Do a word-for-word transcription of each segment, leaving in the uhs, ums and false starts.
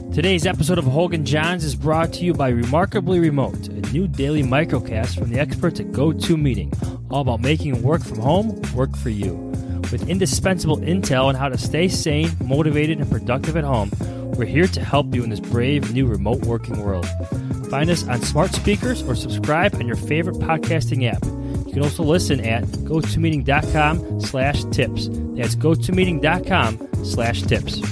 Today's episode of Hogan Johns is brought to you by Remarkably Remote, a new daily microcast from the experts at GoToMeeting, all about making work from home work for you. With indispensable intel on how to stay sane, motivated, and productive at home, we're here to help you in this brave new remote working world. Find us on smart speakers or subscribe on your favorite podcasting app. You can also listen at gotomeeting.com slash tips. That's gotomeeting.com slash tips.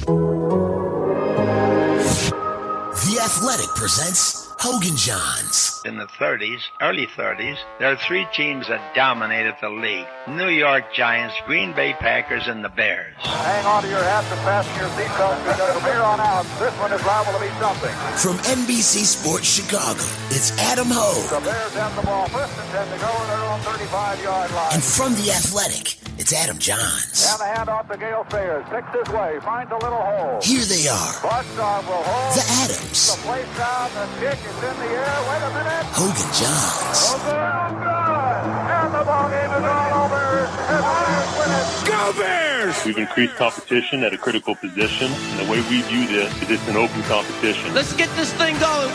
The Athletic presents Hogan Johns. In the thirties, early thirties, there are three teams that dominated the league. New York Giants, Green Bay Packers, and the Bears. Hang on to your hats and fasten your seatbelts because from here on out, this one is liable to be something. From N B C Sports Chicago, it's Adam Hogue. The Bears have the ball first and ten to go on their own thirty-five-yard line. And from The Athletic, it's Adam Johns. And the handoff to Gale Sayers. Picks his way, finds a little hole. Here they are. Boston will hold. The Adams. The place down, the kick is in the air. Wait a minute. Hogan Johns. Hogan, good. And the ball game is all over. And the Bears win it. Go Bears! We've increased competition at a critical position, and the way we view this is it's an open competition. Let's get this thing going.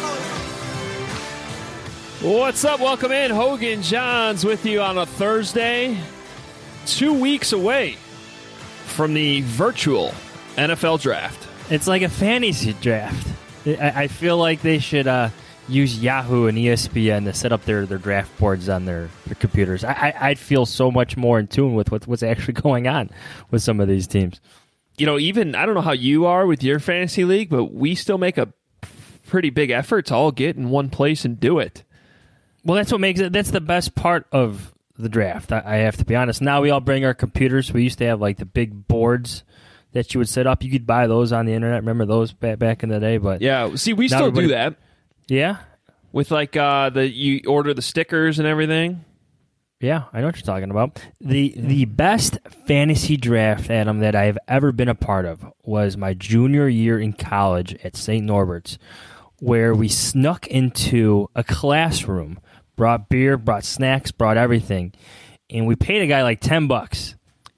What's up? Welcome in. Hogan Johns with you on a Thursday. Two weeks away from the virtual N F L draft. It's like a fantasy draft. I, I feel like they should uh, use Yahoo and E S P N to set up their, their draft boards on their, their computers. I, I, I'd feel so much more in tune with what, what's actually going on with some of these teams. You know, even, I don't know how you are with your fantasy league, but we still make a pretty big effort to all get in one place and do it. Well, that's what makes it, that's the best part of the draft. I, I have to be honest. Now we all bring our computers. We used to have like the big boards that you would set up. You could buy those on the internet. Remember those back, back in the day? But yeah, see, we still do that. Yeah? With like uh, the you order the stickers and everything. Yeah, I know what you're talking about. The the best fantasy draft, Adam, that I have ever been a part of was my junior year in college at Saint Norbert's, where we snuck into a classroom, brought beer, brought snacks, brought everything, and we paid a guy like ten bucks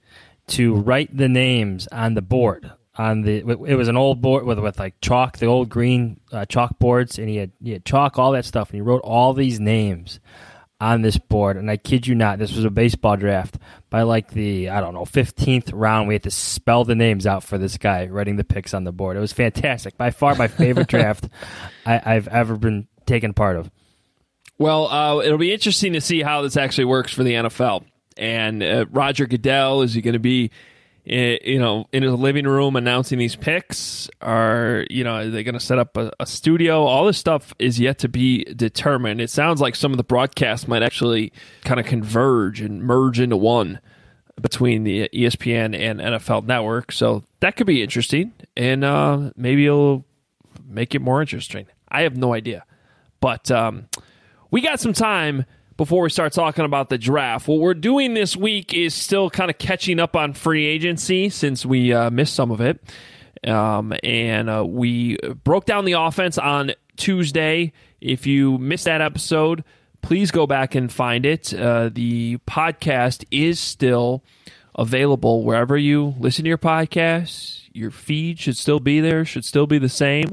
to write the names on the board. On the it was an old board with with like chalk, the old green uh, chalkboards, and he had he had chalk, all that stuff, and he wrote all these names on this board. And I kid you not, this was a baseball draft. By like the I don't know fifteenth round, we had to spell the names out for this guy writing the picks on the board. It was fantastic. By far, my favorite draft I, I've ever been taken part of. Well, uh, it'll be interesting to see how this actually works for the N F L. And uh, Roger Goodell, is he going to be, uh, you know, in his living room announcing these picks? Or, you know, are they going to set up a, a studio? All this stuff is yet to be determined. It sounds like some of the broadcasts might actually kind of converge and merge into one between the E S P N and N F L Network. So that could be interesting, and uh, maybe it'll make it more interesting. I have no idea, but um, we got some time before we start talking about the draft. What we're doing this week is still kind of catching up on free agency since we uh, missed some of it. Um, and uh, we broke down the offense on Tuesday. If you missed that episode, please go back and find it. Uh, the podcast is still available wherever you listen to your podcasts. Your feed should still be there, should still be the same.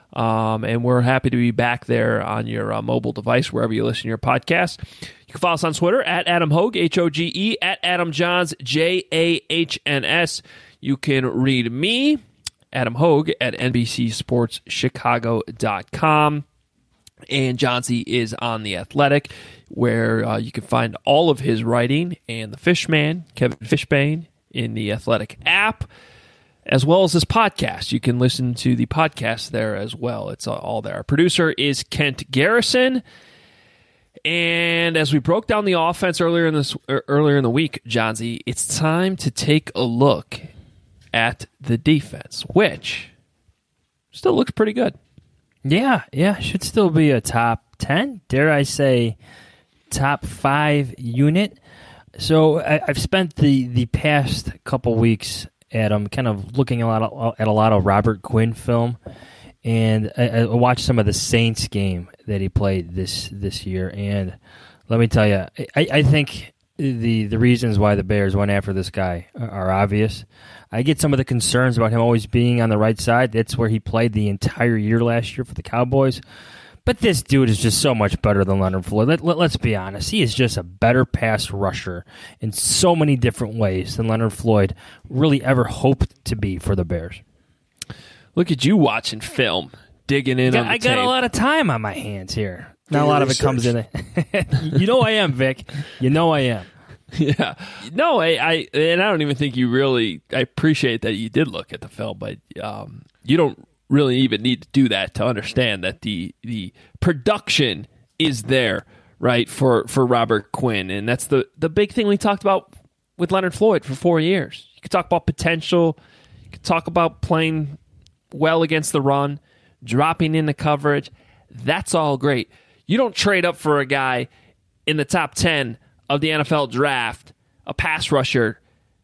Um, and we're happy to be back there on your uh, mobile device, wherever you listen to your podcast. You can follow us on Twitter, at Adam Hogue, H O G E, at Adam Johns, J A H N S. You can read me, Adam Hogue, at N B C Sports Chicago dot com. And Johnsy is on The Athletic, where uh, you can find all of his writing, and the Fishman, Kevin Fishbane, in the Athletic app, as well as this podcast. You can listen to the podcast there as well. It's all there. Our producer is Kent Garrison. And as we broke down the offense earlier in this earlier in the week, Johnsy, it's time to take a look at the defense, which still looks pretty good. Yeah, yeah, should still be a top ten, dare I say, top five unit. So I, I've spent the, the past couple weeks, Adam, kind of looking a lot of, at a lot of Robert Quinn film, and I, I watched some of the Saints game that he played this this year, and let me tell you, I, I think the the reasons why the Bears went after this guy are obvious. I get some of the concerns about him always being on the right side. That's where he played the entire year last year for the Cowboys. But this dude is just so much better than Leonard Floyd. Let, let, let's be honest. He is just a better pass rusher in so many different ways than Leonard Floyd really ever hoped to be for the Bears. Look at you watching film, digging in I got, on the I got tape. a lot of time on my hands here. Not a lot of it comes in it. You know I am, Vic. You know I am. Yeah. No, I, I and I don't even think you really I appreciate that you did look at the film, but um, you don't really even need to do that to understand that the the production is there, right, for, for Robert Quinn. And that's the, the big thing we talked about with Leonard Floyd for four years. You could talk about potential. You could talk about playing well against the run, dropping into coverage. That's all great. You don't trade up for a guy in the top ten of the N F L draft, a pass rusher,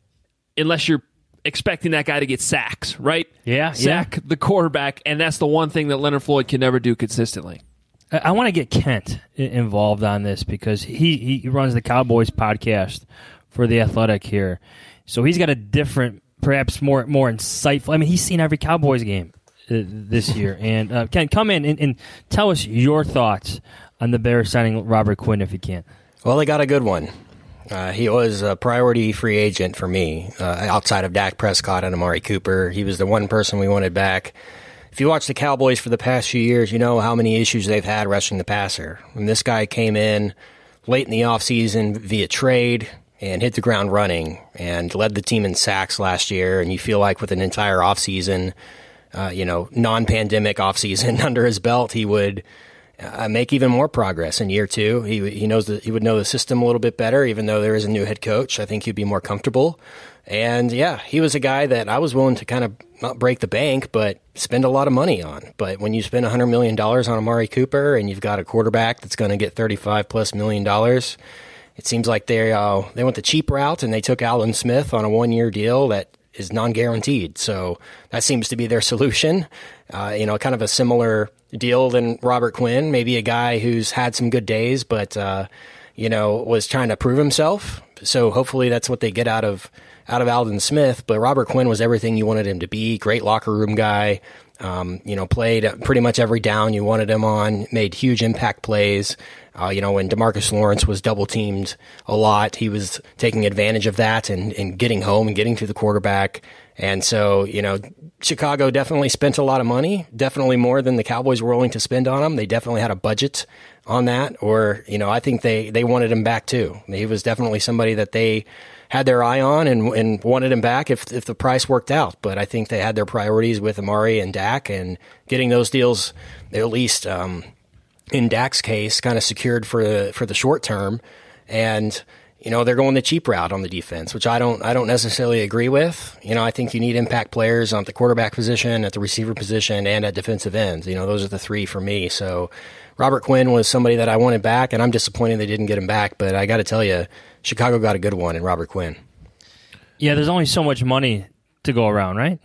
unless you're expecting that guy to get sacks, right? Yeah, Sack yeah. the quarterback, and that's the one thing that Leonard Floyd can never do consistently. I, I want to get Kent i- involved on this because he, he runs the Cowboys podcast for The Athletic here. So he's got a different, perhaps more more insightful. I mean, he's seen every Cowboys game uh, this year. And uh, Kent, come in and, and tell us your thoughts on the Bears signing Robert Quinn if you can. Well, they got a good one. Uh, he was a priority free agent for me, uh, outside of Dak Prescott and Amari Cooper. He was the one person we wanted back. If you watch the Cowboys for the past few years, you know how many issues they've had rushing the passer. And this guy came in late in the offseason via trade and hit the ground running and led the team in sacks last year. And you feel like with an entire offseason, uh, you know, non-pandemic offseason under his belt, he would Uh, make even more progress in year two. He he knows that he would know the system a little bit better, even though there is a new head coach. I think he'd be more comfortable. And yeah, he was a guy that I was willing to kind of not break the bank, but spend a lot of money on. But when you spend one hundred million dollars on Amari Cooper and you've got a quarterback that's going to get thirty-five plus million dollars, it seems like they uh, they went the cheap route and they took Aldon Smith on a one year deal that is non-guaranteed. So that seems to be their solution. Uh, you know, kind of a similar deal than Robert Quinn, maybe a guy who's had some good days, but, uh, you know, was trying to prove himself. So hopefully that's what they get out of, out of Aldon Smith. But Robert Quinn was everything you wanted him to be. Great locker room guy. Um, you know, played pretty much every down you wanted him on, made huge impact plays. Uh, you know, when DeMarcus Lawrence was double teamed a lot, he was taking advantage of that and, and getting home and getting to the quarterback. And so, you know, Chicago definitely spent a lot of money, definitely more than the Cowboys were willing to spend on him. They definitely had a budget on that, or, you know, I think they, they wanted him back too. He was definitely somebody that they had their eye on and, and wanted him back if if the price worked out. But I think they had their priorities with Amari and Dak, and getting those deals, at least um, in Dak's case, kind of secured for the, for the short term. And, you know, they're going the cheap route on the defense, which I don't I don't necessarily agree with. You know, I think you need impact players on the quarterback position, at the receiver position, and at defensive ends. You know, those are the three for me. So Robert Quinn was somebody that I wanted back, and I'm disappointed they didn't get him back. But I got to tell you, Chicago got a good one in Robert Quinn. Yeah, there's only so much money to go around, right?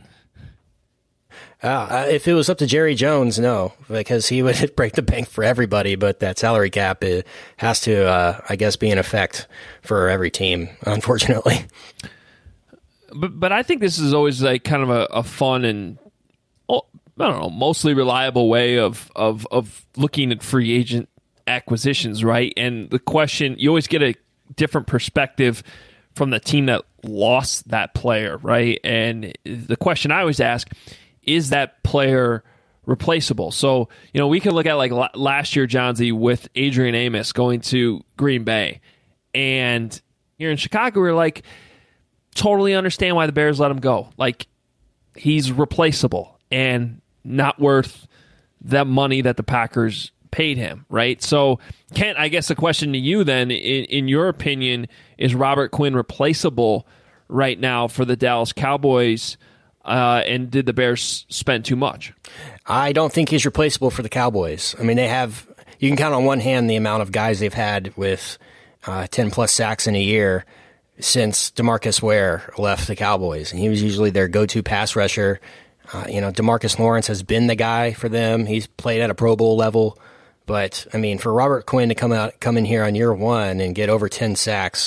Uh, if it was up to Jerry Jones, no, because he would break the bank for everybody. But that salary cap it has to, uh, I guess, be in effect for every team, unfortunately. But but I think this is always like kind of a, a fun and oh, I don't know, mostly reliable way of, of of looking at free agent acquisitions, right? And the question, you always get a different perspective from the team that lost that player, right? And the question I always ask, is that player replaceable? So, you know, we can look at like last year, Johnsy, with Adrian Amos going to Green Bay. And here in Chicago, we're like, totally understand why the Bears let him go. Like, he's replaceable and not worth that money that the Packers paid him, right? So, Kent, I guess the question to you then, in, in your opinion, is Robert Quinn replaceable right now for the Dallas Cowboys? Uh, and did the Bears spend too much? I don't think he's replaceable for the Cowboys. I mean, they have, you can count on one hand the amount of guys they've had with uh, ten plus sacks in a year since DeMarcus Ware left the Cowboys. And he was usually their go-to pass rusher. Uh, you know, DeMarcus Lawrence has been the guy for them. He's played at a Pro Bowl level. But, I mean, for Robert Quinn to come out, come in here on year one and get over ten sacks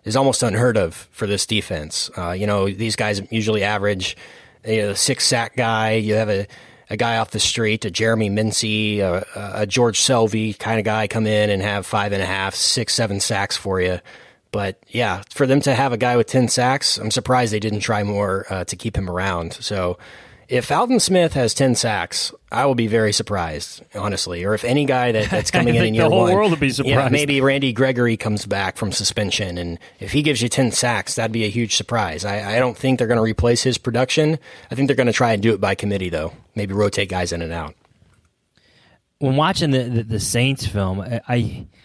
is almost unheard of for this defense. Uh, you know, these guys usually average you know, a six sack guy. You have a, a guy off the street, a Jeremy Mincy, a, a George Selvey kind of guy come in and have five and a half, six, seven sacks for you. But yeah, for them to have a guy with ten sacks, I'm surprised they didn't try more uh, to keep him around. So if Alden Smith has ten sacks, I will be very surprised, honestly. Or if any guy that, that's coming in in year the whole one, world would be surprised. Yeah, maybe Randy Gregory comes back from suspension, and if he gives you ten sacks, that'd be a huge surprise. I, I don't think they're going to replace his production. I think they're going to try and do it by committee, though. Maybe rotate guys in and out. When watching the the, the Saints film, I, I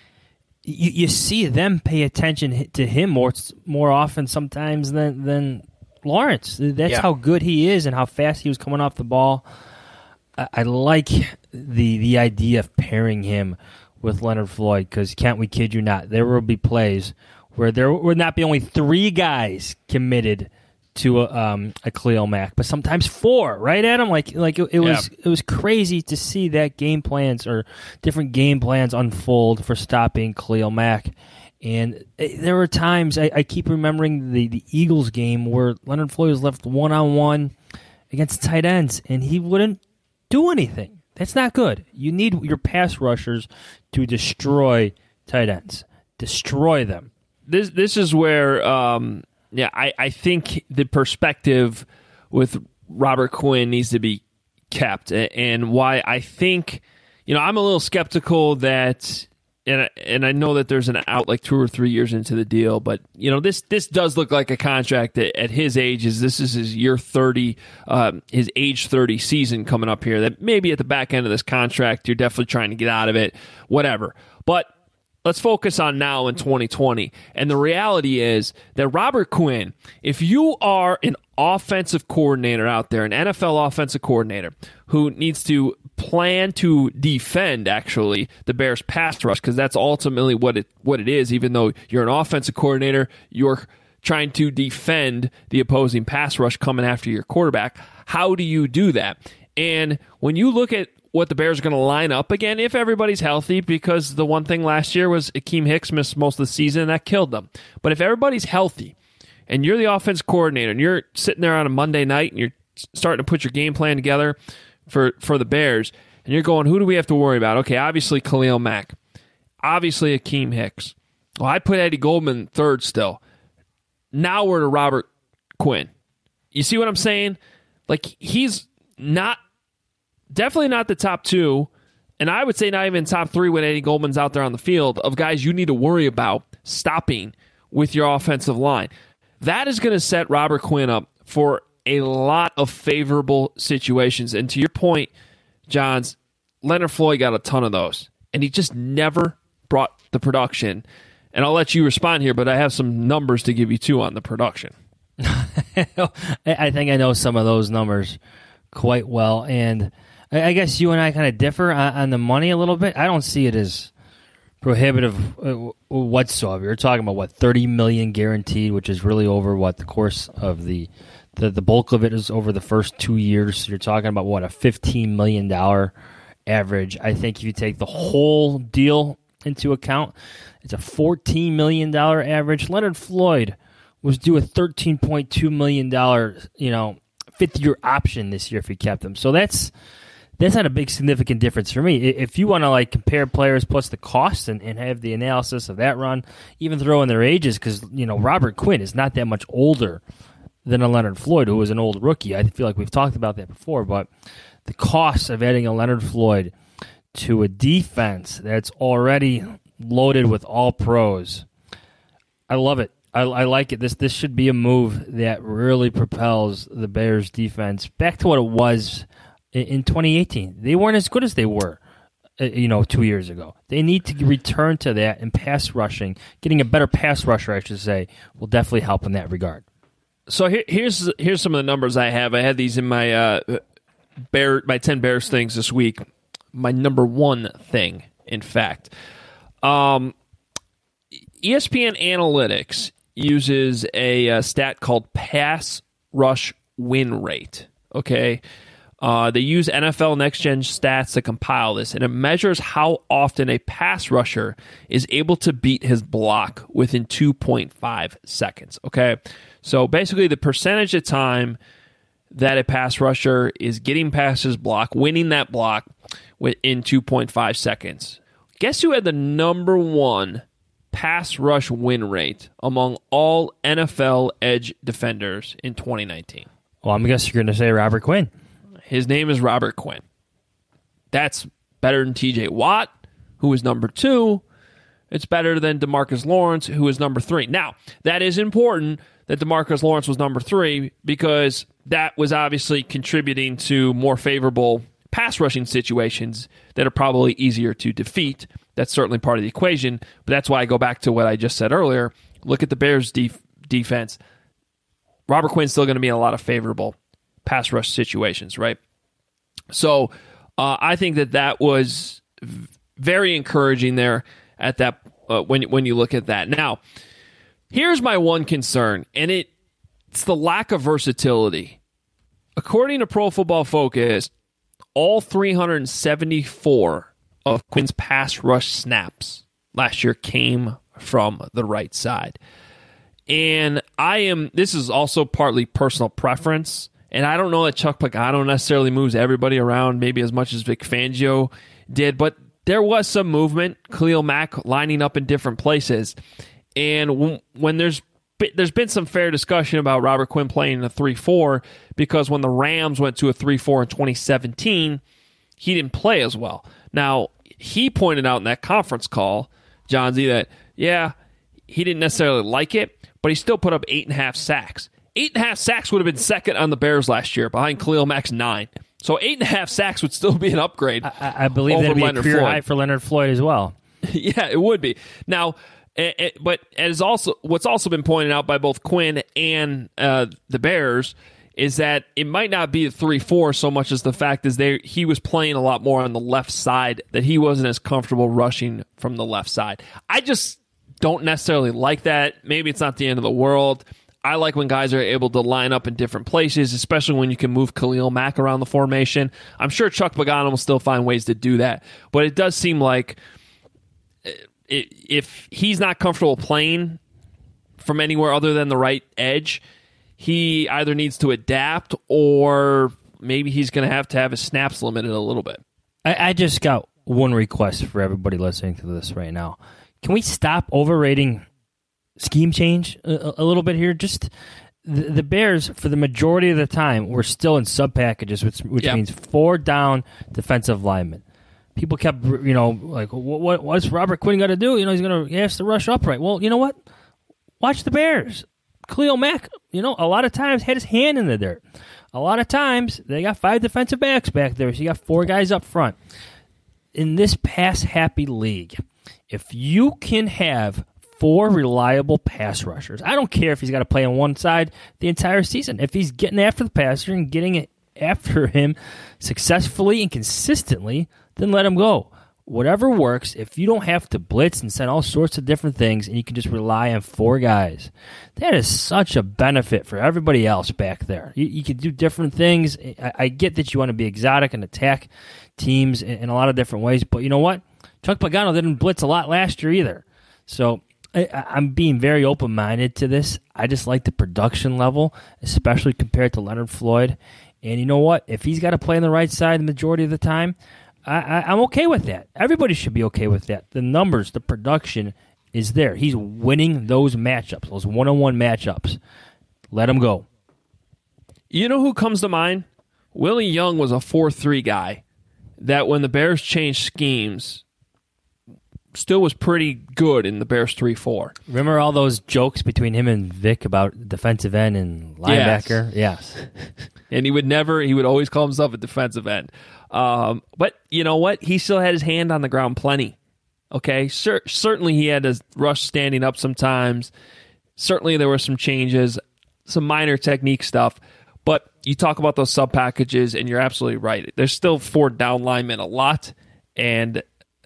you, you see them pay attention to him more more often sometimes than than. Lawrence. That's yeah. how good he is and how fast he was coming off the ball. I, I like the the idea of pairing him with Leonard Floyd because, can't we kid you not, there will be plays where there would not be only three guys committed to a, um, a Khalil Mack, but sometimes four, right, Adam? Like, like it, it was yeah. it was crazy to see that game plans or different game plans unfold for stopping Khalil Mack. And there were times, I, I keep remembering the, the Eagles game where Leonard Floyd was left one-on-one against tight ends, and he wouldn't do anything. That's not good. You need your pass rushers to destroy tight ends. Destroy them. This this is where, um, yeah, I, I think the perspective with Robert Quinn needs to be kept, and why I think, you know, I'm a little skeptical that... And and I know that there's an out like two or three years into the deal, but you know this this does look like a contract that at his age is this is his year thirty, um, his age thirty season coming up here. That maybe at the back end of this contract you're definitely trying to get out of it, whatever. But let's focus on now in twenty twenty. And the reality is that Robert Quinn, if you are an offensive coordinator out there, an N F L offensive coordinator who needs to plan to defend actually the Bears pass rush, because that's ultimately what it what it is. Even though you're an offensive coordinator, you're trying to defend the opposing pass rush coming after your quarterback. How do you do that? And when you look at what the Bears are going to line up again, if everybody's healthy, because the one thing last year was Akeem Hicks missed most of the season and that killed them. But if everybody's healthy and you're the offense coordinator and you're sitting there on a Monday night and you're starting to put your game plan together for, for the Bears, and you're going, who do we have to worry about? Okay, obviously Khalil Mack. Obviously Akeem Hicks. Well, I'd put Eddie Goldman third still. Now we're to Robert Quinn. You see what I'm saying? Like, he's not, definitely not the top two, and I would say not even top three when Eddie Goldman's out there on the field, of guys you need to worry about stopping with your offensive line. That is going to set Robert Quinn up for a lot of favorable situations. And to your point, Johns, Leonard Floyd got a ton of those, and he just never brought the production. And I'll let you respond here, but I have some numbers to give you too on the production. I think I know some of those numbers quite well, and I guess you and I kind of differ on, on the money a little bit. I don't see it as prohibitive whatsoever. You're talking about, what, thirty million dollars guaranteed, which is really over, what, the course of the, the, the bulk of it is over the first two years. So you're talking about, what, a fifteen million dollars average. I think if you take the whole deal into account, it's a fourteen million dollars average. Leonard Floyd was due a thirteen point two million dollars, you know, fifth-year option this year if he kept him. So that's that's not a big significant difference for me. If you want to like compare players plus the cost and, and have the analysis of that run, even throw in their ages, because you know Robert Quinn is not that much older than a Leonard Floyd, who was an old rookie. I feel like we've talked about that before, but the cost of adding a Leonard Floyd to a defense that's already loaded with all pros, I love it. I, I like it. This this should be a move that really propels the Bears defense back to what it was in, in twenty eighteen. They weren't as good as they were, uh, you know, two years ago. They need to return to that, and pass rushing, getting a better pass rusher, I should say, will definitely help in that regard. So here, here's here's some of the numbers I have. I had these in my uh, Bear my ten Bears things this week. My number one thing, in fact, um, E S P N Analytics uses a, a stat called pass rush win rate. Okay, Uh, they use N F L Next Gen Stats to compile this, and it measures how often a pass rusher is able to beat his block within two point five seconds. Okay, so basically the percentage of time that a pass rusher is getting past his block, winning that block within two point five seconds. Guess who had the number one pass rush win rate among all N F L edge defenders in twenty nineteen? Well, I'm guessing you're going to say Robert Quinn. His name is Robert Quinn. That's better than T J Watt, who is number two. It's better than DeMarcus Lawrence, who is number three. Now, that is important that DeMarcus Lawrence was number three because that was obviously contributing to more favorable pass rushing situations that are probably easier to defeat. That's certainly part of the equation, but that's why I go back to what I just said earlier. Look at the Bears' def- defense. Robert Quinn's still going to be in a lot of favorable pass rush situations, right? So uh, I think that that was v- very encouraging there at that uh, when when you look at that. Now, here's my one concern, and it it's the lack of versatility. According to Pro Football Focus, all three hundred seventy-four of Quinn's pass rush snaps last year came from the right side. And I am, this is also partly personal preference, and I don't know that Chuck Pagano necessarily moves everybody around maybe as much as Vic Fangio did, but there was some movement, Khalil Mack lining up in different places. And when, when there's there's been some fair discussion about Robert Quinn playing in a three four because when the Rams went to a three four in twenty seventeen, he didn't play as well. Now, he pointed out in that conference call, John Z, that, yeah, he didn't necessarily like it, but he still put up eight and a half sacks. Eight and a half sacks would have been second on the Bears last year, behind Khalil Mack's nine. So eight and a half sacks would still be an upgrade. I, I believe that would be Leonard a career Floyd. high for Leonard Floyd as well. Yeah, it would be. Now, it, it, but as also what's also been pointed out by both Quinn and uh, the Bears is that it might not be a three four so much as the fact is they he was playing a lot more on the left side, that he wasn't as comfortable rushing from the left side. I just don't necessarily like that. Maybe it's not the end of the world. I like when guys are able to line up in different places, especially when you can move Khalil Mack around the formation. I'm sure Chuck Pagano will still find ways to do that, but it does seem like if he's not comfortable playing from anywhere other than the right edge, he either needs to adapt or maybe he's going to have to have his snaps limited a little bit. I, I just got one request for everybody listening to this right now. Can we stop overrating scheme change a, a little bit here? Just the, the Bears, for the majority of the time, were still in sub packages, which, which yep. means four down defensive linemen. People kept, you know, like, what, what what's Robert Quinn got to do? You know, he's going to he has to rush upright. Well, you know what? Watch the Bears. Khalil Mack, you know, a lot of times had his hand in the dirt. A lot of times they got five defensive backs back there, so you got four guys up front. In this pass-happy league, if you can have four reliable pass rushers, I don't care if he's got to play on one side the entire season. If he's getting after the passer and getting it after him successfully and consistently, then let him go. Whatever works, if you don't have to blitz and send all sorts of different things and you can just rely on four guys, that is such a benefit for everybody else back there. You, you can do different things. I, I get that you want to be exotic and attack teams in, in a lot of different ways, but you know what? Chuck Pagano didn't blitz a lot last year either. So I, I'm being very open-minded to this. I just like the production level, especially compared to Leonard Floyd. And you know what? If he's got to play on the right side the majority of the time, I, I, I'm okay with that. Everybody should be okay with that. The numbers, the production is there. He's winning those matchups, those one-on-one matchups. Let him go. You know who comes to mind? Willie Young was a four three guy that when the Bears changed schemes still was pretty good in the Bears three four. Remember all those jokes between him and Vic about defensive end and linebacker? Yes. yes. And he would never, he would always call himself a defensive end. Um, but you know what? He still had his hand on the ground plenty. Okay? Cer- certainly he had to rush standing up sometimes. Certainly there were some changes, some minor technique stuff. But you talk about those sub packages, and you're absolutely right. There's still four down linemen a lot, and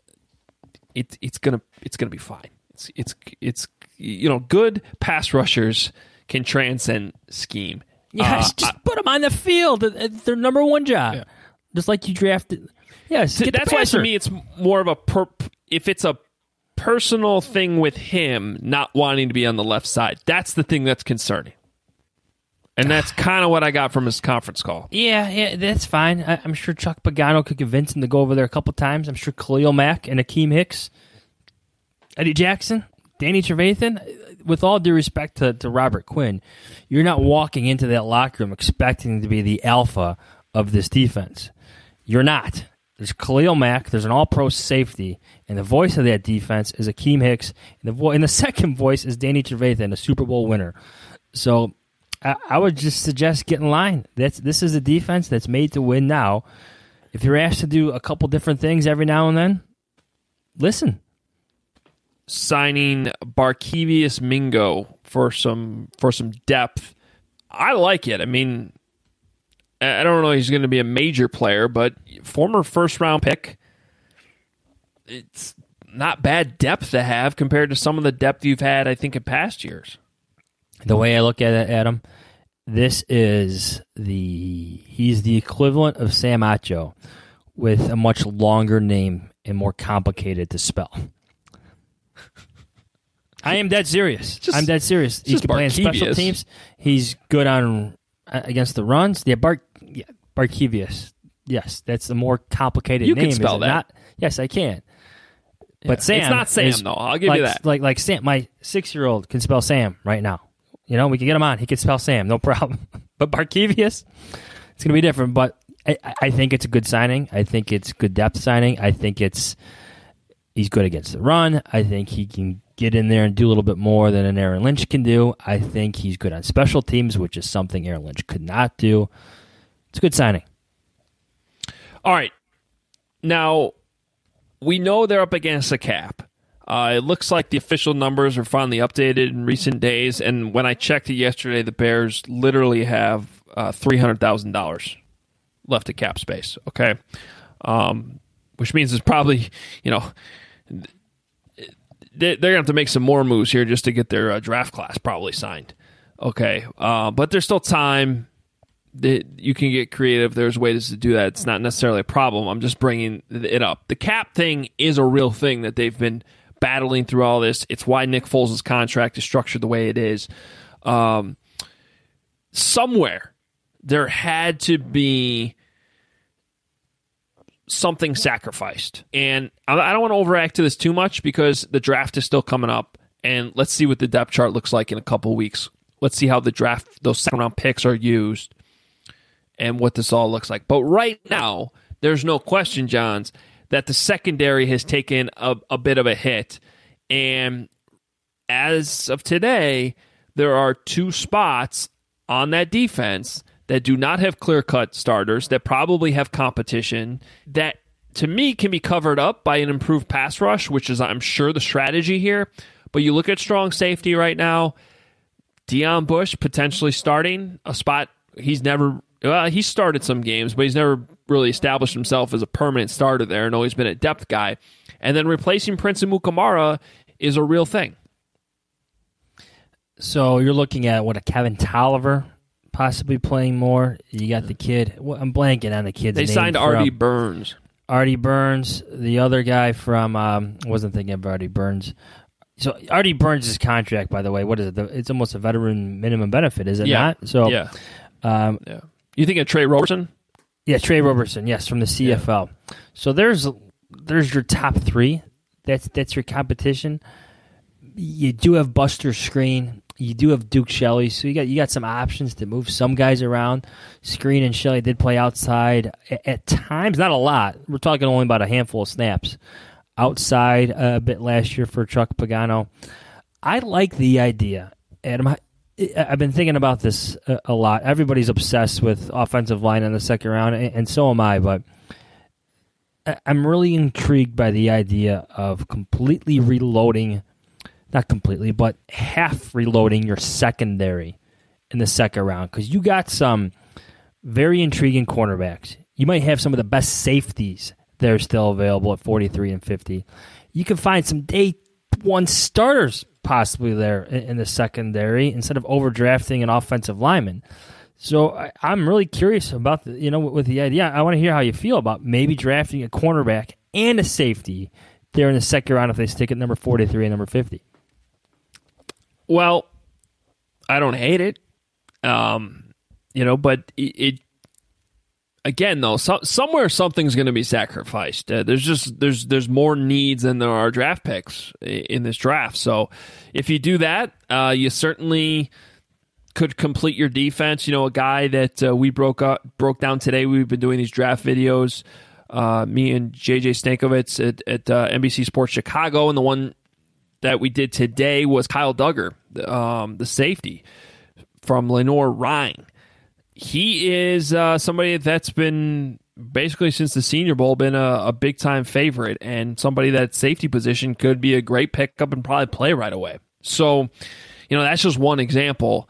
it, it's gonna it's gonna be fine. It's it's it's you know good pass rushers can transcend scheme, Yes, Uh, just I- put them on the field. It's their number one job. Yeah. Just like you drafted. Yes, get the That's why passer. to me it's more of a per, if it's a personal thing with him not wanting to be on the left side. That's the thing that's concerning. And that's kind of what I got from his conference call. Yeah, yeah, that's fine. I, I'm sure Chuck Pagano could convince him to go over there a couple times. I'm sure Khalil Mack and Akeem Hicks, Eddie Jackson, Danny Trevathan. With all due respect to, to Robert Quinn, you're not walking into that locker room expecting to be the alpha of this defense. You're not. There's Khalil Mack. There's an all-pro safety, and the voice of that defense is Akeem Hicks. And the, vo- and the second voice is Danny Trevathan, a Super Bowl winner. So I, I would just suggest get in line. That's This is a defense that's made to win now. If you're asked to do a couple different things every now and then, listen. Signing Barkevius Mingo for some for some depth. I like it. I mean, I don't know if he's going to be a major player, but former first-round pick, it's not bad depth to have compared to some of the depth you've had, I think, in past years. The way I look at it, Adam, this is the he's the equivalent of Sam Acho with a much longer name and more complicated to spell. I am dead serious. Just- I'm dead serious. He just can play in special Barkevius. teams. He's good on uh, against the runs. Yeah, Bar, yeah, Barkevius. Yes, that's the more complicated You name. can spell is it that. Not? Yes, I can. Yeah. But Sam, It's not Sam, is- though. I'll give like, you that. Like like Sam, my six-year-old can spell Sam right now. You know, we can get him on. He can spell Sam, no problem. But Barkevius, it's going to be different. But I, I think it's a good signing. I think it's good depth signing. I think it's he's good against the run. I think he can get in there and do a little bit more than an Aaron Lynch can do. I think he's good on special teams, which is something Aaron Lynch could not do. It's a good signing. All right. Now, we know they're up against a cap. Uh, it looks like the official numbers are finally updated in recent days, and when I checked it yesterday, the Bears literally have uh, three hundred thousand dollars left of cap space, okay? Um, which means it's probably, you know, they're going to have to make some more moves here just to get their uh, draft class probably signed, okay? Uh, but there's still time. You can get creative. There's ways to do that. It's not necessarily a problem. I'm just bringing it up. The cap thing is a real thing that they've been battling through all this. It's why Nick Foles' contract is structured the way it is. Um, somewhere there had to be something sacrificed. And I don't want to overact to this too much because the draft is still coming up. And let's see what the depth chart looks like in a couple weeks. Let's see how the draft, those second round picks are used and what this all looks like. But right now, there's no question, Johns, that the secondary has taken a, a bit of a hit. And as of today, there are two spots on that defense that do not have clear-cut starters, that probably have competition, that to me can be covered up by an improved pass rush, which is, I'm sure, the strategy here. But you look at strong safety right now, Deion Bush potentially starting a spot he's never... Well, he started some games, but he's never really established himself as a permanent starter there and always been a depth guy. And then replacing Prince Amukamara is a real thing. So you're looking at, what, a Kevin Tolliver possibly playing more? You got the kid. Well, I'm blanking on the kid's They name. signed from- Artie Burns. Artie Burns, the other guy from, um, I wasn't thinking of Artie Burns. So Artie Burns' contract, by the way, what is it? The- It's almost a veteran minimum benefit, is it Yeah. not? So, Yeah. um, Yeah. You think of Trey Robertson? yeah, Trey Robertson, yes, from the C F L. So there's there's your top three. That's that's your competition. You do have Buster Screen. You do have Duke Shelley. So you got you got some options to move some guys around. Screen and Shelley did play outside at, at times, not a lot. We're talking only about a handful of snaps outside a bit last year for Chuck Pagano. I like the idea, Adam. I, I've been thinking about this a, a lot. Everybody's obsessed with offensive line in the second round, and, and so am I. But I, I'm really intrigued by the idea of completely reloading, not completely, but half reloading your secondary in the second round, because you got some very intriguing cornerbacks. You might have some of the best safeties that are still available at forty-three and fifty. You can find some day one starters possibly there in, in the secondary instead of overdrafting an offensive lineman. So I, I'm really curious about the, you know, with the idea. I want to hear how you feel about maybe drafting a cornerback and a safety there in the second round if they stick at number forty-three and number fifty. Well, I don't hate it, um, you know, but it, it again though, so, somewhere something's going to be sacrificed. Uh, there's just there's there's more needs than there are draft picks in this draft. So if you do that, uh, you certainly could complete your defense. You know, a guy that uh, we broke up, broke down today. We've been doing these draft videos. Uh, me and J J Stankovitz at, at uh, N B C Sports Chicago, and the one that we did today was Kyle Duggar, um, the safety from Lenoir-Rhyne. He is uh, somebody that's been basically since the Senior Bowl been a, a big-time favorite, and somebody that safety position could be a great pickup and probably play right away. So, you know, that's just one example.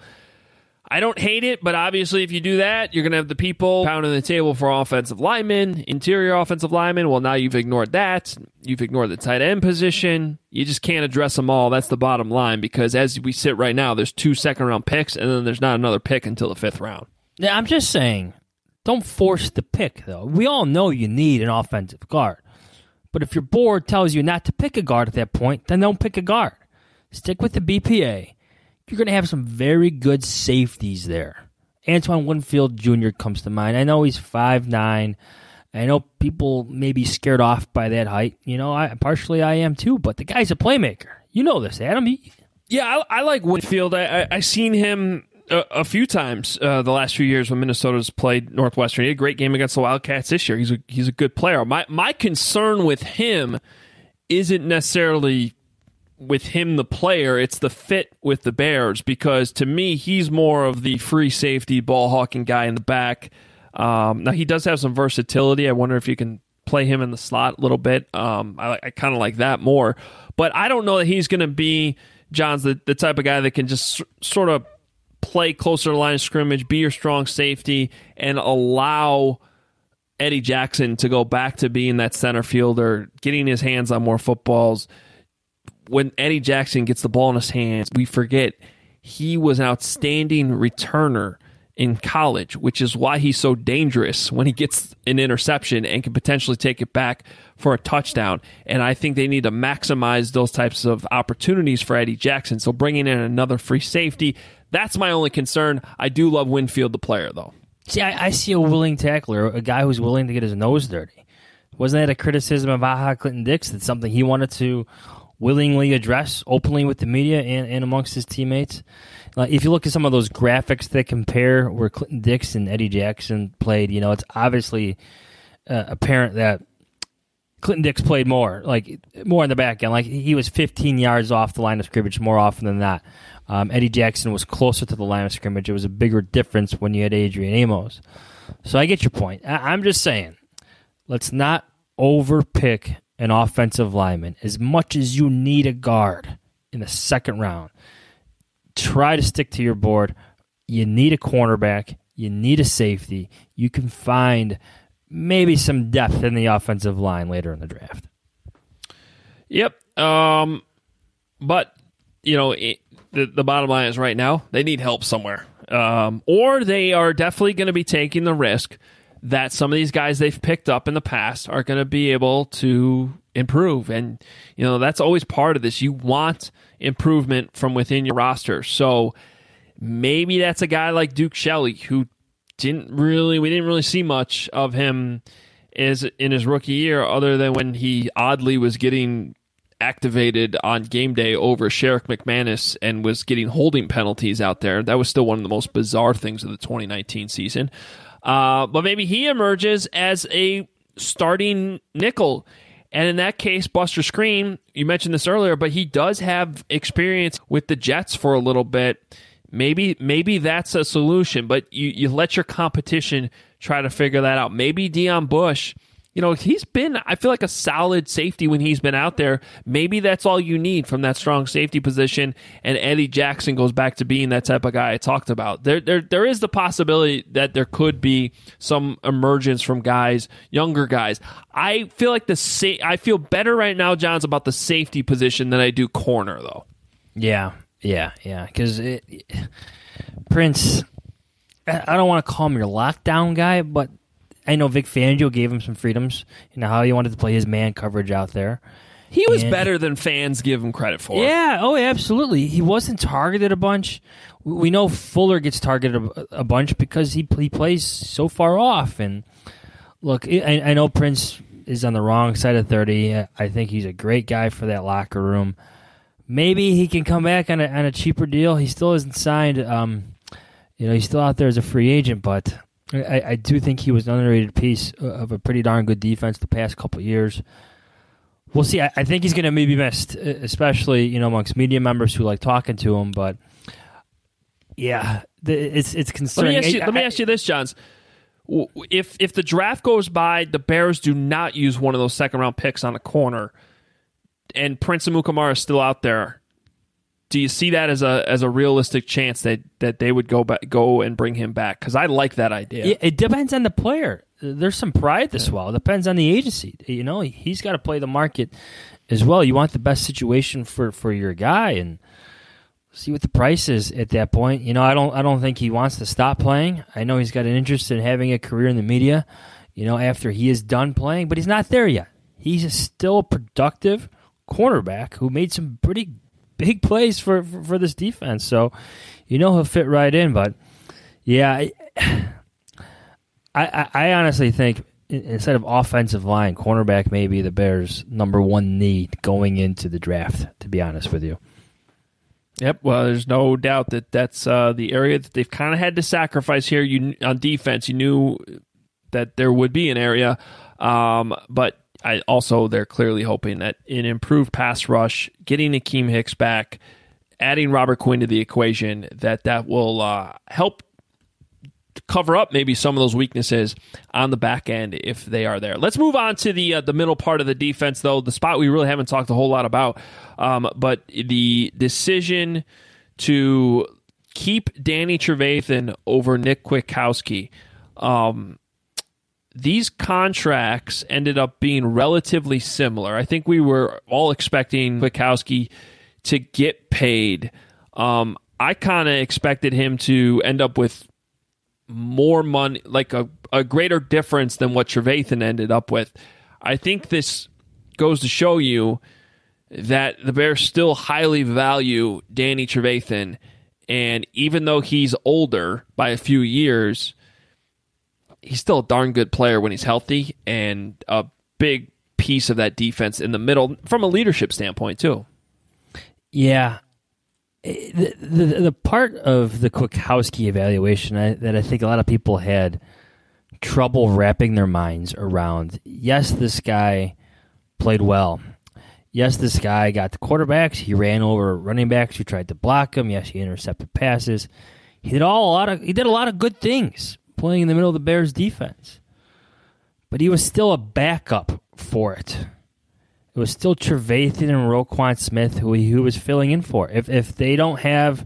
I don't hate it, but obviously if you do that, you're going to have the people pounding the table for offensive linemen, interior offensive linemen. Well, now you've ignored that. You've ignored the tight end position. You just can't address them all. That's the bottom line, because as we sit right now, there's two second-round picks, and then there's not another pick until the fifth round. Yeah, I'm just saying, don't force the pick, though. We all know you need an offensive guard. But if your board tells you not to pick a guard at that point, then don't pick a guard. Stick with the B P A. You're going to have some very good safeties there. Antoine Winfield Junior comes to mind. I know he's five nine. I know people may be scared off by that height. You know, I partially I am too, but the guy's a playmaker. You know this, Adam. He, yeah, I, I like Winfield. I, I, I seen him a, a few times uh, the last few years when Minnesota's played Northwestern. He had a great game against the Wildcats this year. He's a, he's a good player. My My concern with him isn't necessarily with him, the player, it's the fit with the Bears, because to me, he's more of the free safety, ball hawking guy in the back. Um, now, he does have some versatility. I wonder if you can play him in the slot a little bit. Um, I, I kind of like that more. But I don't know that he's going to be, John's the, the type of guy that can just s- sort of play closer to the line of scrimmage, be your strong safety, and allow Eddie Jackson to go back to being that center fielder, getting his hands on more footballs. When Eddie Jackson gets the ball in his hands, we forget he was an outstanding returner in college, which is why he's so dangerous when he gets an interception and can potentially take it back for a touchdown. And I think they need to maximize those types of opportunities for Eddie Jackson. So bringing in another free safety, that's my only concern. I do love Winfield, the player, though. See, I, I see a willing tackler, a guy who's willing to get his nose dirty. Wasn't that a criticism of Aha Clinton Dix? That's something he wanted to willingly address openly with the media and, and amongst his teammates. Like, if you look at some of those graphics that compare where Clinton Dix and Eddie Jackson played, you know, it's obviously uh, apparent that Clinton Dix played more, like more in the back end. Like, he was fifteen yards off the line of scrimmage more often than not. Um, Eddie Jackson was closer to the line of scrimmage. It was a bigger difference when you had Adrian Amos. So I get your point. I- I'm just saying, let's not overpick an offensive lineman. As much as you need a guard in the second round, try to stick to your board. You need a cornerback. You need a safety. You can find maybe some depth in the offensive line later in the draft. Yep. Um, but, you know, it, the, the bottom line is right now, they need help somewhere. Um, or they are definitely going to be taking the risk that some of these guys they've picked up in the past are going to be able to improve. And, you know, that's always part of this. You want improvement from within your roster. So maybe that's a guy like Duke Shelley, who didn't really, we didn't really see much of him as in his rookie year, other than when he oddly was getting activated on game day over Sherrick McManus and was getting holding penalties out there. That was still one of the most bizarre things of the twenty nineteen season. Uh, but maybe he emerges as a starting nickel. And in that case, Buster Skrine, you mentioned this earlier, but he does have experience with the Jets for a little bit. Maybe maybe that's a solution, but you, you let your competition try to figure that out. Maybe Deion Bush, you know, he's been, I feel like, a solid safety when he's been out there. Maybe that's all you need from that strong safety position, and Eddie Jackson goes back to being that type of guy I talked about. There, there, there is the possibility that there could be some emergence from guys, younger guys. I feel like the sa- I feel better right now, Johns, about the safety position than I do corner, though. Yeah, yeah, yeah. Because Prince, I don't want to call him your lockdown guy, but I know Vic Fangio gave him some freedoms, you know, how he wanted to play his man coverage out there. He was and, better than fans give him credit for. Yeah, oh, absolutely. He wasn't targeted a bunch. We know Fuller gets targeted a, a bunch because he he plays so far off. And look, I, I know Prince is on the wrong side of thirty. I think he's a great guy for that locker room. Maybe he can come back on a, on a cheaper deal. He still isn't signed. Um, you know, he's still out there as a free agent, but I, I do think he was an underrated piece of a pretty darn good defense the past couple of years. We'll see. I, I think he's going to maybe missed, especially, you know, amongst media members who like talking to him. But yeah, the, it's it's concerning. Let me ask you, I, let me I, ask you this, Johns. If if the draft goes by, the Bears do not use one of those second round picks on a corner, and Prince Amukamara is still out there, do you see that as a as a realistic chance that, that they would go back, go and bring him back? Because I like that idea. It, it depends on the player. There's some pride to swallow. It depends on the agency. You know, he's got to play the market as well. You want the best situation for, for your guy, and see what the price is at that point. You know, I don't I don't think he wants to stop playing. I know he's got an interest in having a career in the media, you know, after he is done playing, but he's not there yet. He's still a productive cornerback who made some pretty big plays for, for, for this defense. So, you know, he'll fit right in. But, yeah, I, I, I honestly think instead of offensive line, cornerback may be the Bears' number one need going into the draft, to be honest with you. Yep, well, there's no doubt that that's uh, the area that they've kind of had to sacrifice here. You on defense, you knew that there would be an area, um, but I also they're clearly hoping that an improved pass rush, getting Akeem Hicks back, adding Robert Quinn to the equation, that that will uh, help cover up maybe some of those weaknesses on the back end if they are there. Let's move on to the uh, the middle part of the defense, though, the spot we really haven't talked a whole lot about. Um, but the decision to keep Danny Trevathan over Nick Kwiatkowski, um, these contracts ended up being relatively similar. I think we were all expecting Kwiatkowski to get paid. Um, I kind of expected him to end up with more money, like a, a greater difference than what Trevathan ended up with. I think this goes to show you that the Bears still highly value Danny Trevathan, and even though he's older by a few years, he's still a darn good player when he's healthy and a big piece of that defense in the middle from a leadership standpoint too. Yeah. The, the, the part of the Kwiatkowski evaluation I, that I think a lot of people had trouble wrapping their minds around, yes, this guy played well. Yes, this guy got the quarterbacks. He ran over running backs who tried to block him. Yes, he intercepted passes. He did all a lot of he did a lot of good things playing in the middle of the Bears defense. But he was still a backup for it. It was still Trevathan and Roquan Smith who he who was filling in for. If if they don't have,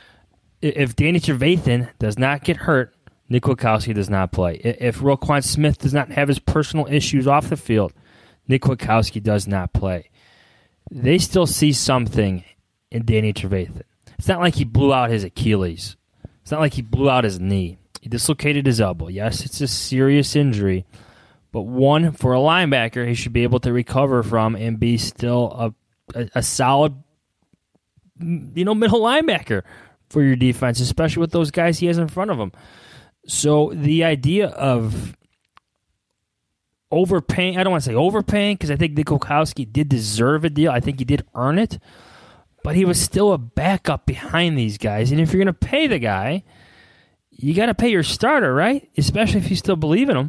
if Danny Trevathan does not get hurt, Nick Kwiatkowski does not play. If Roquan Smith does not have his personal issues off the field, Nick Kwiatkowski does not play. They still see something in Danny Trevathan. It's not like he blew out his Achilles. It's not like he blew out his knee. He dislocated his elbow. Yes, it's a serious injury. But one, for a linebacker, he should be able to recover from and be still a, a, a solid, you know, middle linebacker for your defense, especially with those guys he has in front of him. So the idea of overpaying, I don't want to say overpaying, because I think Nick Kwiatkowski did deserve a deal. I think he did earn it. But he was still a backup behind these guys. And if you're going to pay the guy, you got to pay your starter, right? Especially if you still believe in him.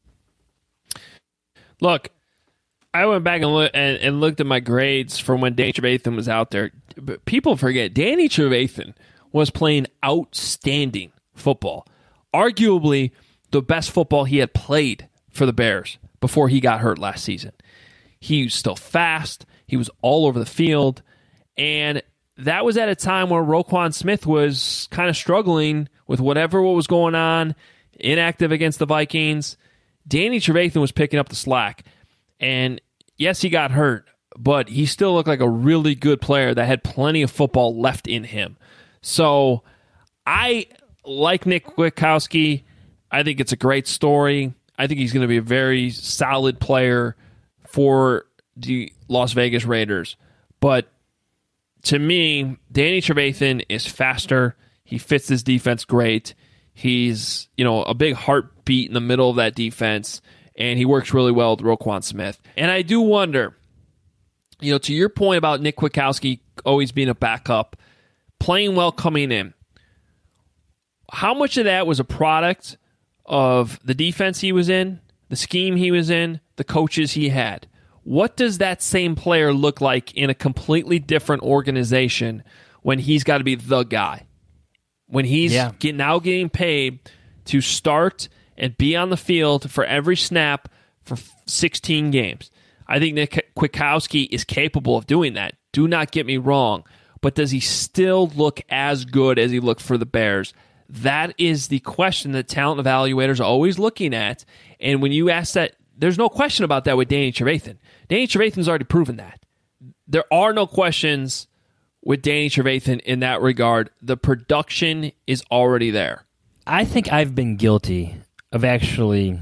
Look, I went back and, look, and, and looked at my grades from when Danny Trevathan was out there. But people forget, Danny Trevathan was playing outstanding football. Arguably the best football he had played for the Bears before he got hurt last season. He was still fast. He was all over the field. And that was at a time where Roquan Smith was kind of struggling with whatever what was going on, inactive against the Vikings. Danny Trevathan was picking up the slack. And yes, he got hurt, but he still looked like a really good player that had plenty of football left in him. So I like Nick Kwiatkowski, I think it's a great story. I think he's going to be a very solid player for the Las Vegas Raiders. But to me, Danny Trevathan is faster. He fits this defense great. He's, you know, a big heartbeat in the middle of that defense, and he works really well with Roquan Smith. And I do wonder, you know, to your point about Nick Kwiatkowski always being a backup, playing well coming in, how much of that was a product of the defense he was in, the scheme he was in, the coaches he had? What does that same player look like in a completely different organization when he's got to be the guy? When he's yeah. get, now getting paid to start and be on the field for every snap for sixteen games. I think Nick Kwiatkowski is capable of doing that. Do not get me wrong. But does he still look as good as he looked for the Bears? That is the question that talent evaluators are always looking at. And when you ask that, there's no question about that with Danny Trevathan. Danny Trevathan's already proven that. There are no questions with Danny Trevathan in that regard. The production is already there. I think I've been guilty of actually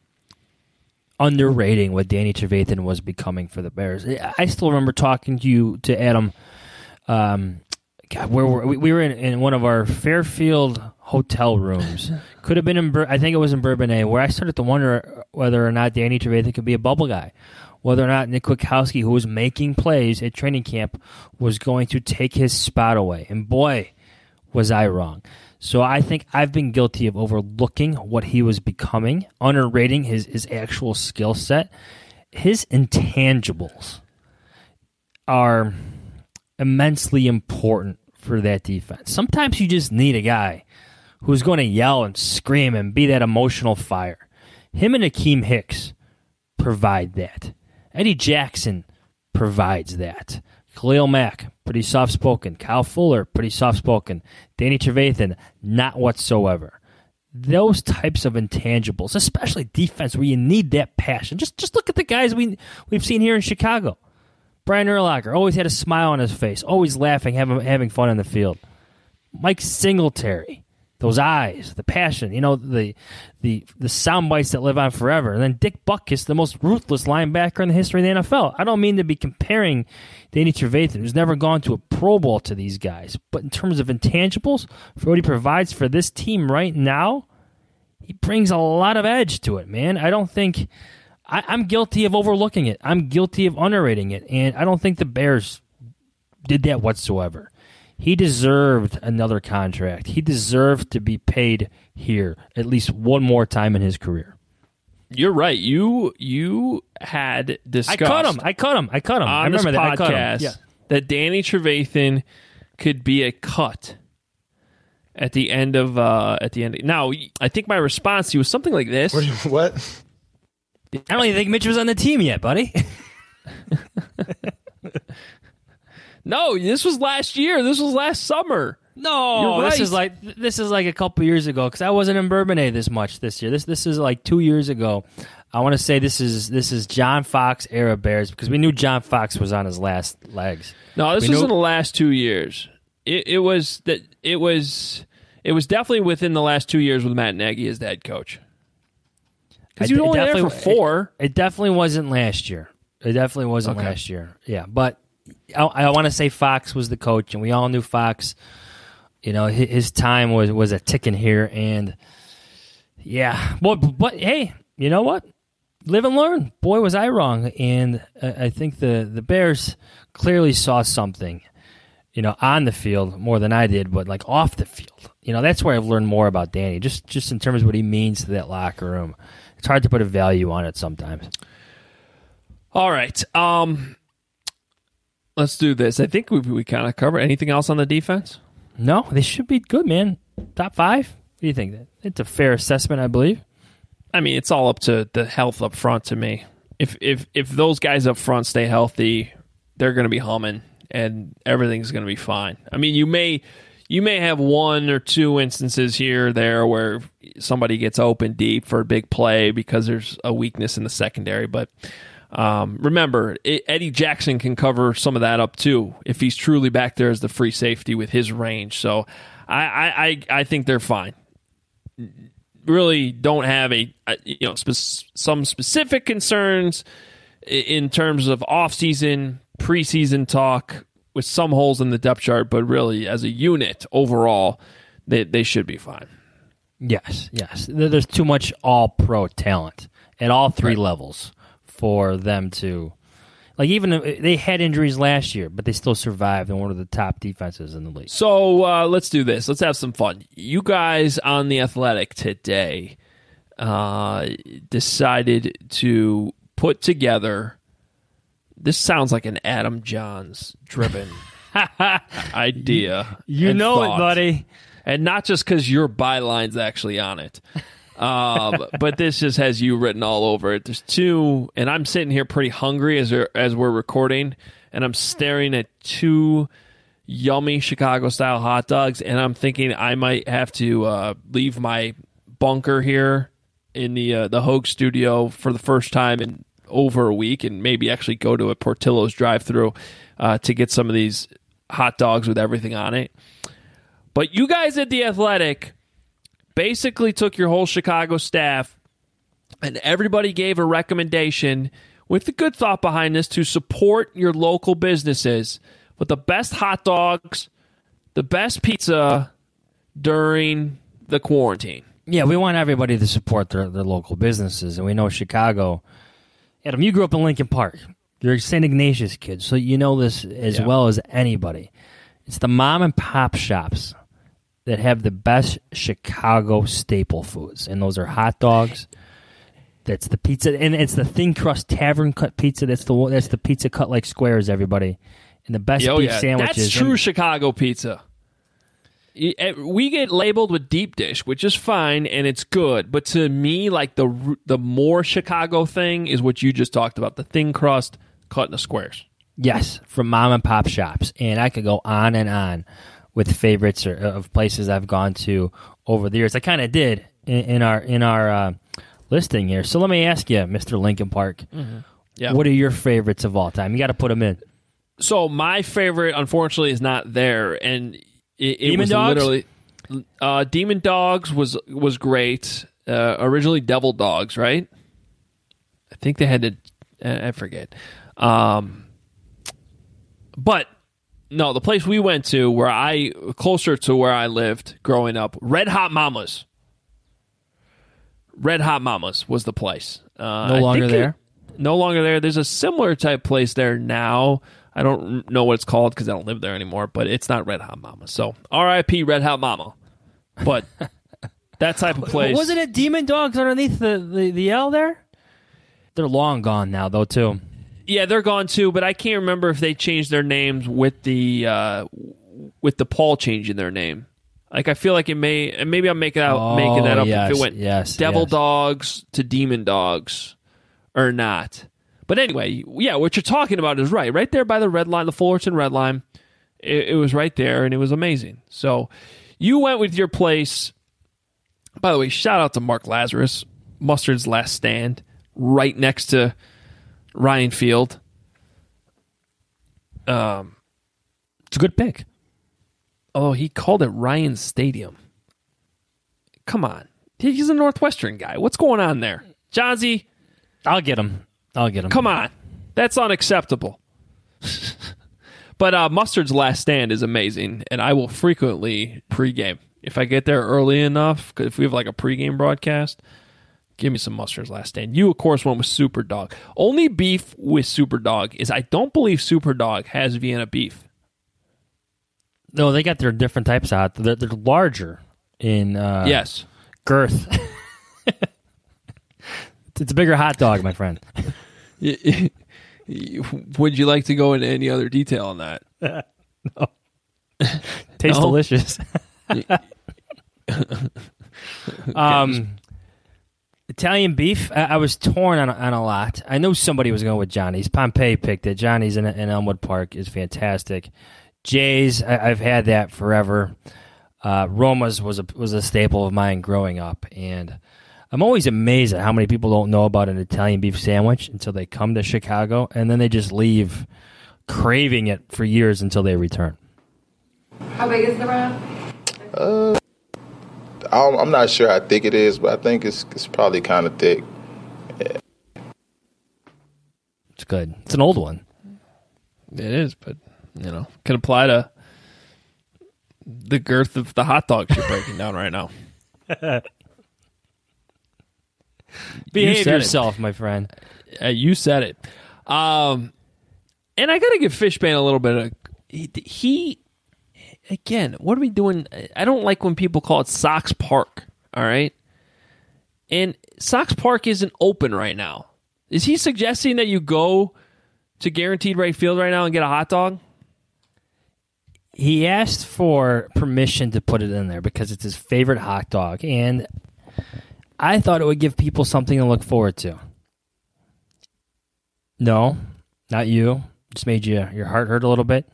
underrating what Danny Trevathan was becoming for the Bears. I still remember talking to you, to Adam, um, God, where were, we, we were in, in one of our Fairfield hotel rooms. Could have been in, Bur- I think it was in Bourbonnais, where I started to wonder whether or not Danny Trevathan could be a bubble guy. Whether or not Nick Kwiatkowski, who was making plays at training camp, was going to take his spot away. And boy, was I wrong. So I think I've been guilty of overlooking what he was becoming, underrating his, his actual skill set. His intangibles are immensely important for that defense. Sometimes you just need a guy who's going to yell and scream and be that emotional fire. Him and Akeem Hicks provide that. Eddie Jackson provides that. Khalil Mack, pretty soft-spoken. Kyle Fuller, pretty soft-spoken. Danny Trevathan, not whatsoever. Those types of intangibles, especially defense where you need that passion. Just just look at the guys we, we've seen here in Chicago. Brian Urlacher always had a smile on his face, always laughing, having, having fun on the field. Mike Singletary. Those eyes, the passion, you know, the the the sound bites that live on forever. And then Dick Butkus, the most ruthless linebacker in the history of the N F L. I don't mean to be comparing Danny Trevathan, who's never gone to a Pro Bowl, to these guys. But in terms of intangibles, for what he provides for this team right now, he brings a lot of edge to it, man. I don't think... I, I'm guilty of overlooking it. I'm guilty of underrating it. And I don't think the Bears did that whatsoever. He deserved another contract. He deserved to be paid here at least one more time in his career. You're right. You you had discussed. I cut him. I cut him. I cut him. On I remember this that. I cut him. podcast Yeah. that Danny Trevathan could be a cut at the end of uh, at the end. Of, now, I think my response to you was something like this. What? what? I don't even think Mitch was on the team yet, buddy. No, this was last year. This was last summer. No, You're this right. is like this is like a couple years ago because I wasn't in Bourbonnais this much this year. This this is like two years ago. I want to say this is this is John Fox era Bears because we knew John Fox was on his last legs. No, this We was knew- in the last two years. It, it was that it was it was definitely within the last two years with Matt Nagy as the head coach. Because I- you were it only there for definitely- four. It, it definitely wasn't last year. It definitely wasn't Okay. last year. Yeah, but I, I want to say Fox was the coach, and we all knew Fox. You know, his, his time was, was a ticking here, and yeah. But, but hey, you know what? Live and learn. Boy, was I wrong. And I, I think the, the Bears clearly saw something, you know, on the field more than I did, but like off the field. You know, that's where I've learned more about Danny, just just in terms of what he means to that locker room. It's hard to put a value on it sometimes. All right. Um, let's do this. I think we we kind of covered. Anything else on the defense? No, they should be good, man. Top five? What do you think? It's a fair assessment, I believe. I mean, it's all up to the health up front to me. If if if those guys up front stay healthy, they're going to be humming, and everything's going to be fine. I mean, you may you may have one or two instances here or there where somebody gets open deep for a big play because there's a weakness in the secondary, but um, remember, it, Eddie Jackson can cover some of that up too if he's truly back there as the free safety with his range. So I, I, I, I think they're fine. Really don't have a, a you know spe- some specific concerns in terms of off-season, preseason talk with some holes in the depth chart, but really as a unit overall, they they should be fine. Yes, yes. There's too much all-pro talent at all three Right. levels for them to, like, even if they had injuries last year, but they still survived and one of the top defenses in the league. So uh, let's do this. Let's have some fun. You guys on The Athletic today uh, decided to put together, this sounds like an Adam Johns driven idea. You and know thought. it, buddy. And not just because your byline's actually on it. Um, but this just has you written all over it. There's two, and I'm sitting here pretty hungry as we're, as we're recording, and I'm staring at two yummy Chicago-style hot dogs, and I'm thinking I might have to uh, leave my bunker here in the uh, the Hogue studio for the first time in over a week, and maybe actually go to a Portillo's drive-thru uh, to get some of these hot dogs with everything on it. But you guys at The Athletic basically took your whole Chicago staff and everybody gave a recommendation with the good thought behind this to support your local businesses with the best hot dogs, the best pizza during the quarantine. Yeah, we want everybody to support their, their local businesses, and we know Chicago. Adam, you grew up in Lincoln Park. You're a Saint Ignatius kid, so you know this as Yeah. well as anybody. It's the mom and pop shops that have the best Chicago staple foods, and those are hot dogs. That's the pizza, and it's the thin crust tavern cut pizza. That's the one- that's the pizza cut like squares, everybody, and the best Oh, beef yeah. sandwiches. That's true And- Chicago pizza. Y- eh, We get labeled with deep dish, which is fine and it's good. But to me, like the r- the more Chicago thing is what you just talked about, the thin crust cut in the squares. Yes, from mom and pop shops, and I could go on and on with favorites or, of places I've gone to over the years. I kind of did in, in our in our uh, listing here. So let me ask you, Mister Lincoln Park, Yeah. what are your favorites of all time? You got to put them in. So my favorite, unfortunately, is not there, and it, it Demon was Dogs? literally uh, Demon Dogs was was great. Uh, originally, Devil Dogs, right? I think they had to. I forget. Um, but no, the place we went to, where I closer to where I lived growing up, Red Hot Mamas. Red Hot Mamas was the place. Uh, No I longer think there? It, no longer there. There's a similar type place there now. I don't know what it's called because I don't live there anymore, but it's not Red Hot Mama. So R I P Red Hot Mama. But that type of place. Wasn't it Demon Dogs underneath the, the, the L there? They're long gone now, though, too. Yeah, they're gone too, but I can't remember if they changed their names with the uh, with the Paul changing their name. Like I feel like it may, and maybe I'm making out Oh, making that up yes, if it went yes, Devil yes. Dogs to Demon Dogs or not. But anyway, yeah, what you're talking about is right, right there by the red line, the Fullerton red line. It, it was right there, and it was amazing. So you went with your place. By the way, shout out to Mark Lazarus, Mustard's Last Stand, right next to Ryan Field. Um, It's a good pick. oh, he called it Ryan Stadium. Come on, he's a Northwestern guy. What's going on there, Johnsy? I'll get him. I'll get him. Come on. That's unacceptable. But uh, Mustard's Last Stand is amazing, and I will frequently pregame. If I get there early enough, 'cause if we have like a pregame broadcast, give me some Mustard's Last Stand. You, of course, went with Super Dog. Only beef with Super Dog is I don't believe Super Dog has Vienna beef. No, they got their different types of hot. They're, they're larger in uh, Yes. girth. It's a bigger hot dog, my friend. Would you like to go into any other detail on that? Tastes No? delicious. um, Italian beef. I, I was torn on, on a lot. I knew somebody was going with Johnny's. Pompey picked it. Johnny's in, in Elmwood Park is fantastic. Jay's. I, I've had that forever. Uh, Roma's was a was a staple of mine growing up, and I'm always amazed at how many people don't know about an Italian beef sandwich until they come to Chicago, and then they just leave craving it for years until they return. How big is the wrap? Uh, I'm, I'm not sure how thick it is, but I think it's it's probably kind of thick. Yeah. It's good. It's an old one. It is, but you know, can apply to the girth of the hot dogs you're breaking down right now. Behave You said yourself, my friend. Uh, you said it. Um, and I got to give Fishbane a little bit of he, he. Again, what are we doing? I don't like when people call it Sox Park. All right, and Sox Park isn't open right now. Is he suggesting that you go to Guaranteed Rate Field right now and get a hot dog? He asked for permission to put it in there because it's his favorite hot dog, and I thought it would give people something to look forward to. No, not you. Just made you your heart hurt a little bit.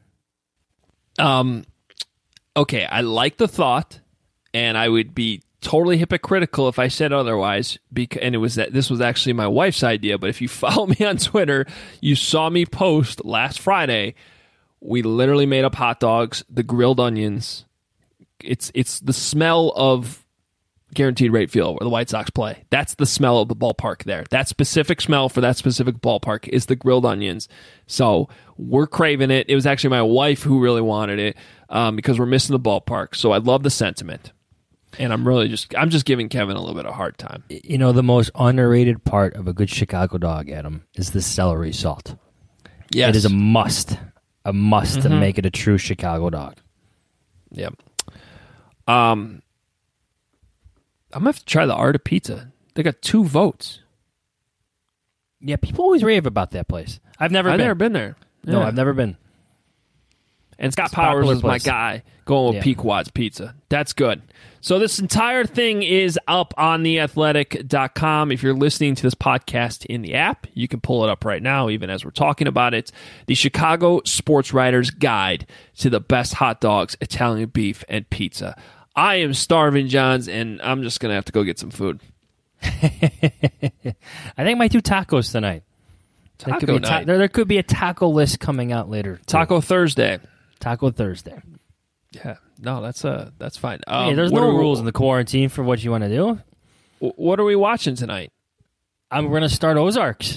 Um, okay, I like the thought, and I would be totally hypocritical if I said otherwise. Because, and it was that this was actually my wife's idea. But if you follow me on Twitter, you saw me post last Friday. We literally made up hot dogs, the grilled onions. It's it's the smell of Guaranteed Rate Field where the White Sox play. That's the smell of the ballpark there. That specific smell for that specific ballpark is the grilled onions. So we're craving it. It was actually my wife who really wanted it um, because we're missing the ballpark. So I love the sentiment. And I'm really just I'm just giving Kevin a little bit of a hard time. You know, the most underrated part of a good Chicago dog, Adam, is the celery salt. Yes. It is a must. A must Mm-hmm. to make it a true Chicago dog. Yep. Um, I'm going to have to try the Art of Pizza. They got two votes. Yeah, people always rave about that place. I've never I've been. never been there. No, Yeah. I've never been. And Scott It's a Powers popular is my place. guy going with Yeah. Pequod's Pizza. That's good. So this entire thing is up on the athletic dot com. If you're listening to this podcast in the app, you can pull it up right now, even as we're talking about it. The Chicago Sports Writer's Guide to the Best Hot Dogs, Italian Beef, and Pizza. I am starving, Johns, and I'm just going to have to go get some food. I think I might do tacos tonight. There could, Taco be a ta- night. there, there could be a taco list coming out later. too. Taco Thursday. Taco Thursday. Yeah, no, that's uh, that's fine. Hey, Um, there's what no are we- rules in the quarantine for what you want to do. What are we watching tonight? I'm going to start Ozarks.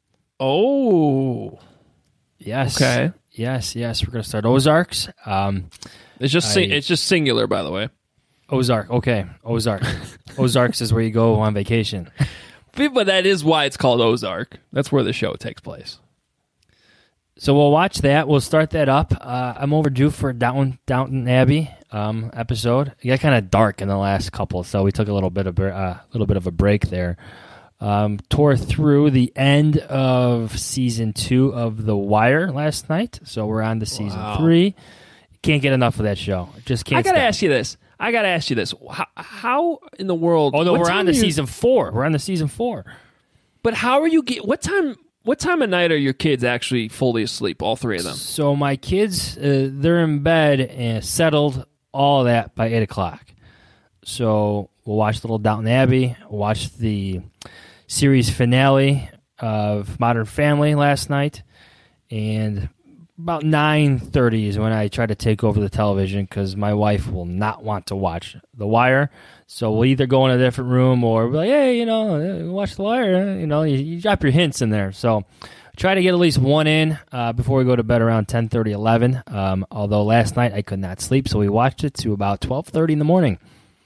Oh, Yes. Okay. Yes, yes. We're going to start Ozarks. Um, it's just sing- I- it's just singular, by the way. Ozark. Okay. Ozark. Ozarks is where you go on vacation. But that is why it's called Ozark. That's where the show takes place. So we'll watch that. We'll start that up. Uh, I'm overdue for Downton, Downton Abbey um, episode. It got kind of dark in the last couple, so we took a little bit of a uh, little bit of a break there. Um, tore through the end of season two of The Wire last night, so we're on to season Wow. three. Can't get enough of that show. Just can't. I gotta stop. ask you this. I gotta ask you this. How, how in the world? Oh no, what we're time on to are you- season four. We're on to season four. But how are you get? What time? What time of night are your kids actually fully asleep? All three of them. So my kids, uh, they're in bed and settled, all that by eight o'clock. So we'll watch Little Downton Abbey, watch the series finale of Modern Family last night, and about nine thirty is when I try to take over the television because my wife will not want to watch The Wire. So we'll either go in a different room or be like, hey, you know, watch The Wire. You know, you, you drop your hints in there. So try to get at least one in uh, before we go to bed around ten thirty, eleven. Um, although last night I could not sleep, so we watched it to about twelve thirty in the morning.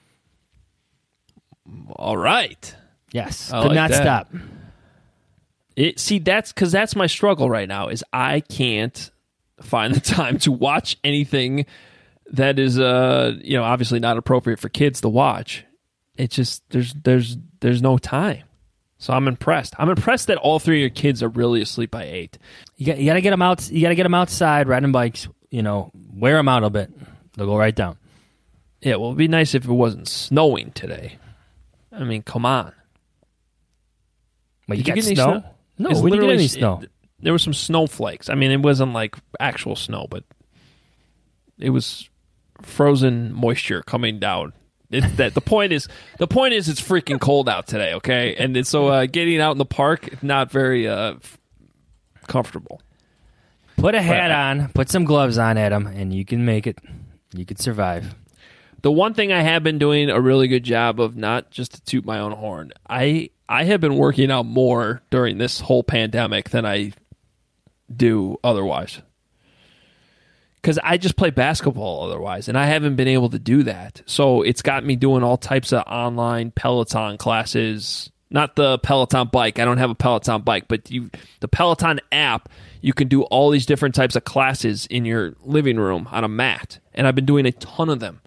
All right. Yes, I could like not that. stop. It see that's because that's my struggle right now is I can't find the time to watch anything that is uh you know obviously not appropriate for kids to watch. It just there's there's there's no time. So I'm impressed. I'm impressed that all three of your kids are really asleep by eight. You got you got to get them out. You got to get them outside riding bikes. You know, wear them out a bit. They'll go right down. Yeah, well, it'd be nice if it wasn't snowing today. I mean, come on. But you Did got get any snow? No, It's we didn't get literally any s- snow. it- there were some snowflakes. I mean, it wasn't like actual snow, but it was frozen moisture coming down. It's that the point is the point is it's freaking cold out today, okay? And it's, so uh, getting out in the park not very uh, f- comfortable. Put a hat But- on, put some gloves on, Adam, and you can make it. You can survive. The one thing I have been doing a really good job of, not just to toot my own horn, I I have been working out more during this whole pandemic than I do otherwise. Because I just play basketball otherwise, and I haven't been able to do that. So it's got me doing all types of online Peloton classes. Not the Peloton bike. I don't have a Peloton bike, but you, the Peloton app, you can do all these different types of classes in your living room on a mat. And I've been doing a ton of them.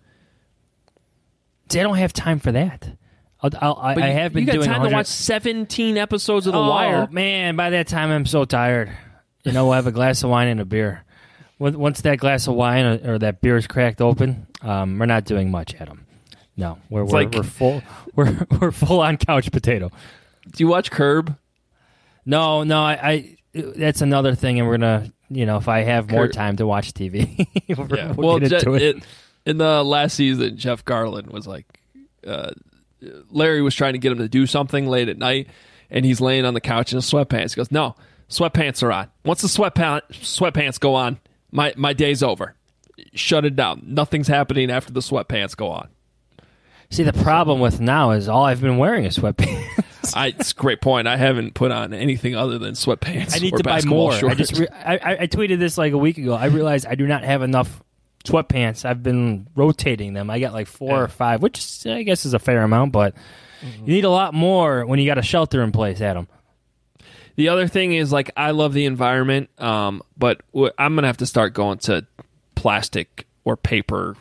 See, I don't have time for that. I'll, I'll, I, But I you- have been you got doing time one hundred to watch seventeen episodes of The oh, Wire. man, by that time I'm so tired. You know, I have a glass of wine and a beer. Once once that glass of wine or, or that beer is cracked open, um, we're not doing much, Adam. No, we're we're, like- we're full. We're we're full on couch potato. Do you watch Curb? No, no, I, I. That's another thing, and we're gonna, you know, if I have more Kurt- time to watch T V, we'll, Yeah. we'll Well, get Je- into it. it- in the last season, Jeff Garland was like, uh, Larry was trying to get him to do something late at night, and he's laying on the couch in his sweatpants. He goes, "No, sweatpants are on. Once the sweatpants sweatpants go on, my my day's over. Shut it down. Nothing's happening after the sweatpants go on." See, the problem with now is all I've been wearing is sweatpants. I, it's a great point. I haven't put on anything other than sweatpants. I need or to buy basketball more. I shorts. just re- I, I I tweeted this like a week ago. I realized I do not have enough sweatpants. I've been rotating them. I got like four Yeah. or five, which is, I guess is a fair amount, but you need a lot more when you got a shelter in place, Adam. The other thing is, like, I love the environment, um, but w- I'm gonna have to start going to plastic or paper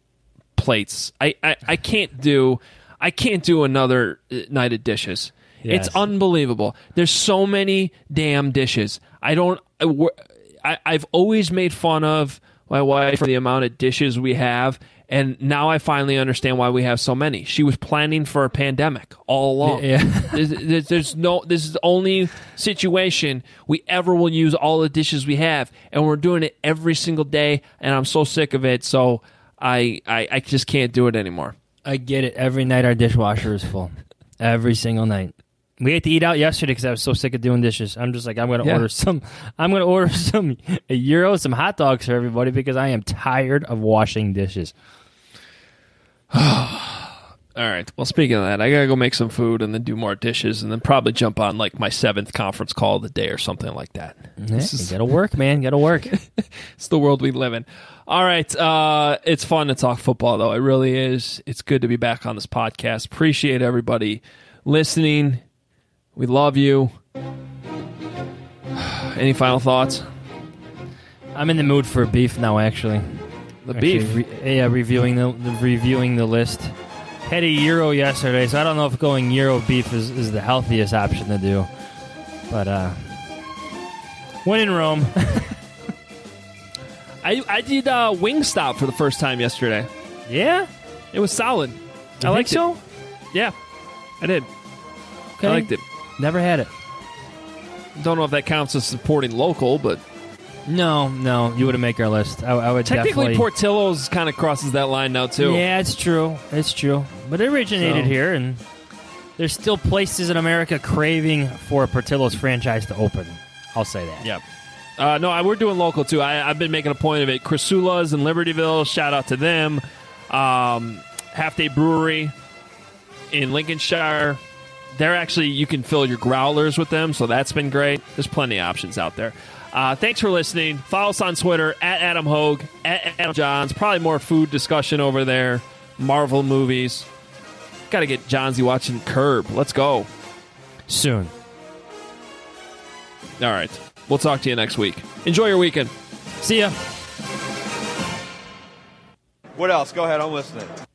plates. I, I, I can't do I can't do another uh, night of dishes. Yes. It's unbelievable. There's so many damn dishes. I don't. I, we're- I, I've always made fun of my wife for the amount of dishes we have, and now I finally understand why we have so many. She was planning for a pandemic all along. Yeah. there's, there's, there's no. This is the only situation we ever will use all the dishes we have, and we're doing it every single day. And I'm so sick of it. So I, I, I just can't do it anymore. I get it. Every night our dishwasher is full. Every single night. We had to eat out yesterday because I was so sick of doing dishes. I'm just like, I'm going to Yeah. order some. I'm going to order some a gyro, some hot dogs for everybody because I am tired of washing dishes. All right. Well, speaking of that, I gotta go make some food and then do more dishes, and then probably jump on like my seventh conference call of the day or something like that. Yeah, This you is got to work, man. Got to work. it's the world we live in. All right. Uh, it's fun to talk football, though. It really is. It's good to be back on this podcast. Appreciate everybody listening. We love you. Any final thoughts? I'm in the mood for beef now. Actually, The Actually, beef. Re- yeah, reviewing the, the reviewing the list. Had a gyro yesterday, so I don't know if going gyro beef is, is the healthiest option to do. But uh, when in Rome, I I did uh, Wingstop for the first time yesterday. yeah, It was solid. You I think liked so? it. Yeah, I did. Okay. I liked it. Never had it. Don't know if that counts as supporting local, but No, no, you wouldn't make our list. I, I would technically definitely. Portillo's kind of crosses that line now too. Yeah, it's true. It's true. But it originated So- here, and there's still places in America craving for a Portillo's franchise to open. I'll say that. Yeah. Uh, no, I, we're doing local too. I, I've been making a point of it. Crisula's in Libertyville. Shout out to them. Um, Half Day Brewery in Lincolnshire. They're actually, you can fill your growlers with them, so that's been great. There's plenty of options out there. Uh, thanks for listening. Follow us on Twitter, at Adam Hogue, at Adam Johns. Probably more food discussion over there. Marvel movies. Got to get Johnsy watching Curb. Let's go. Soon. All right. We'll talk to you next week. Enjoy your weekend. See ya. What else? Go ahead, I'm listening.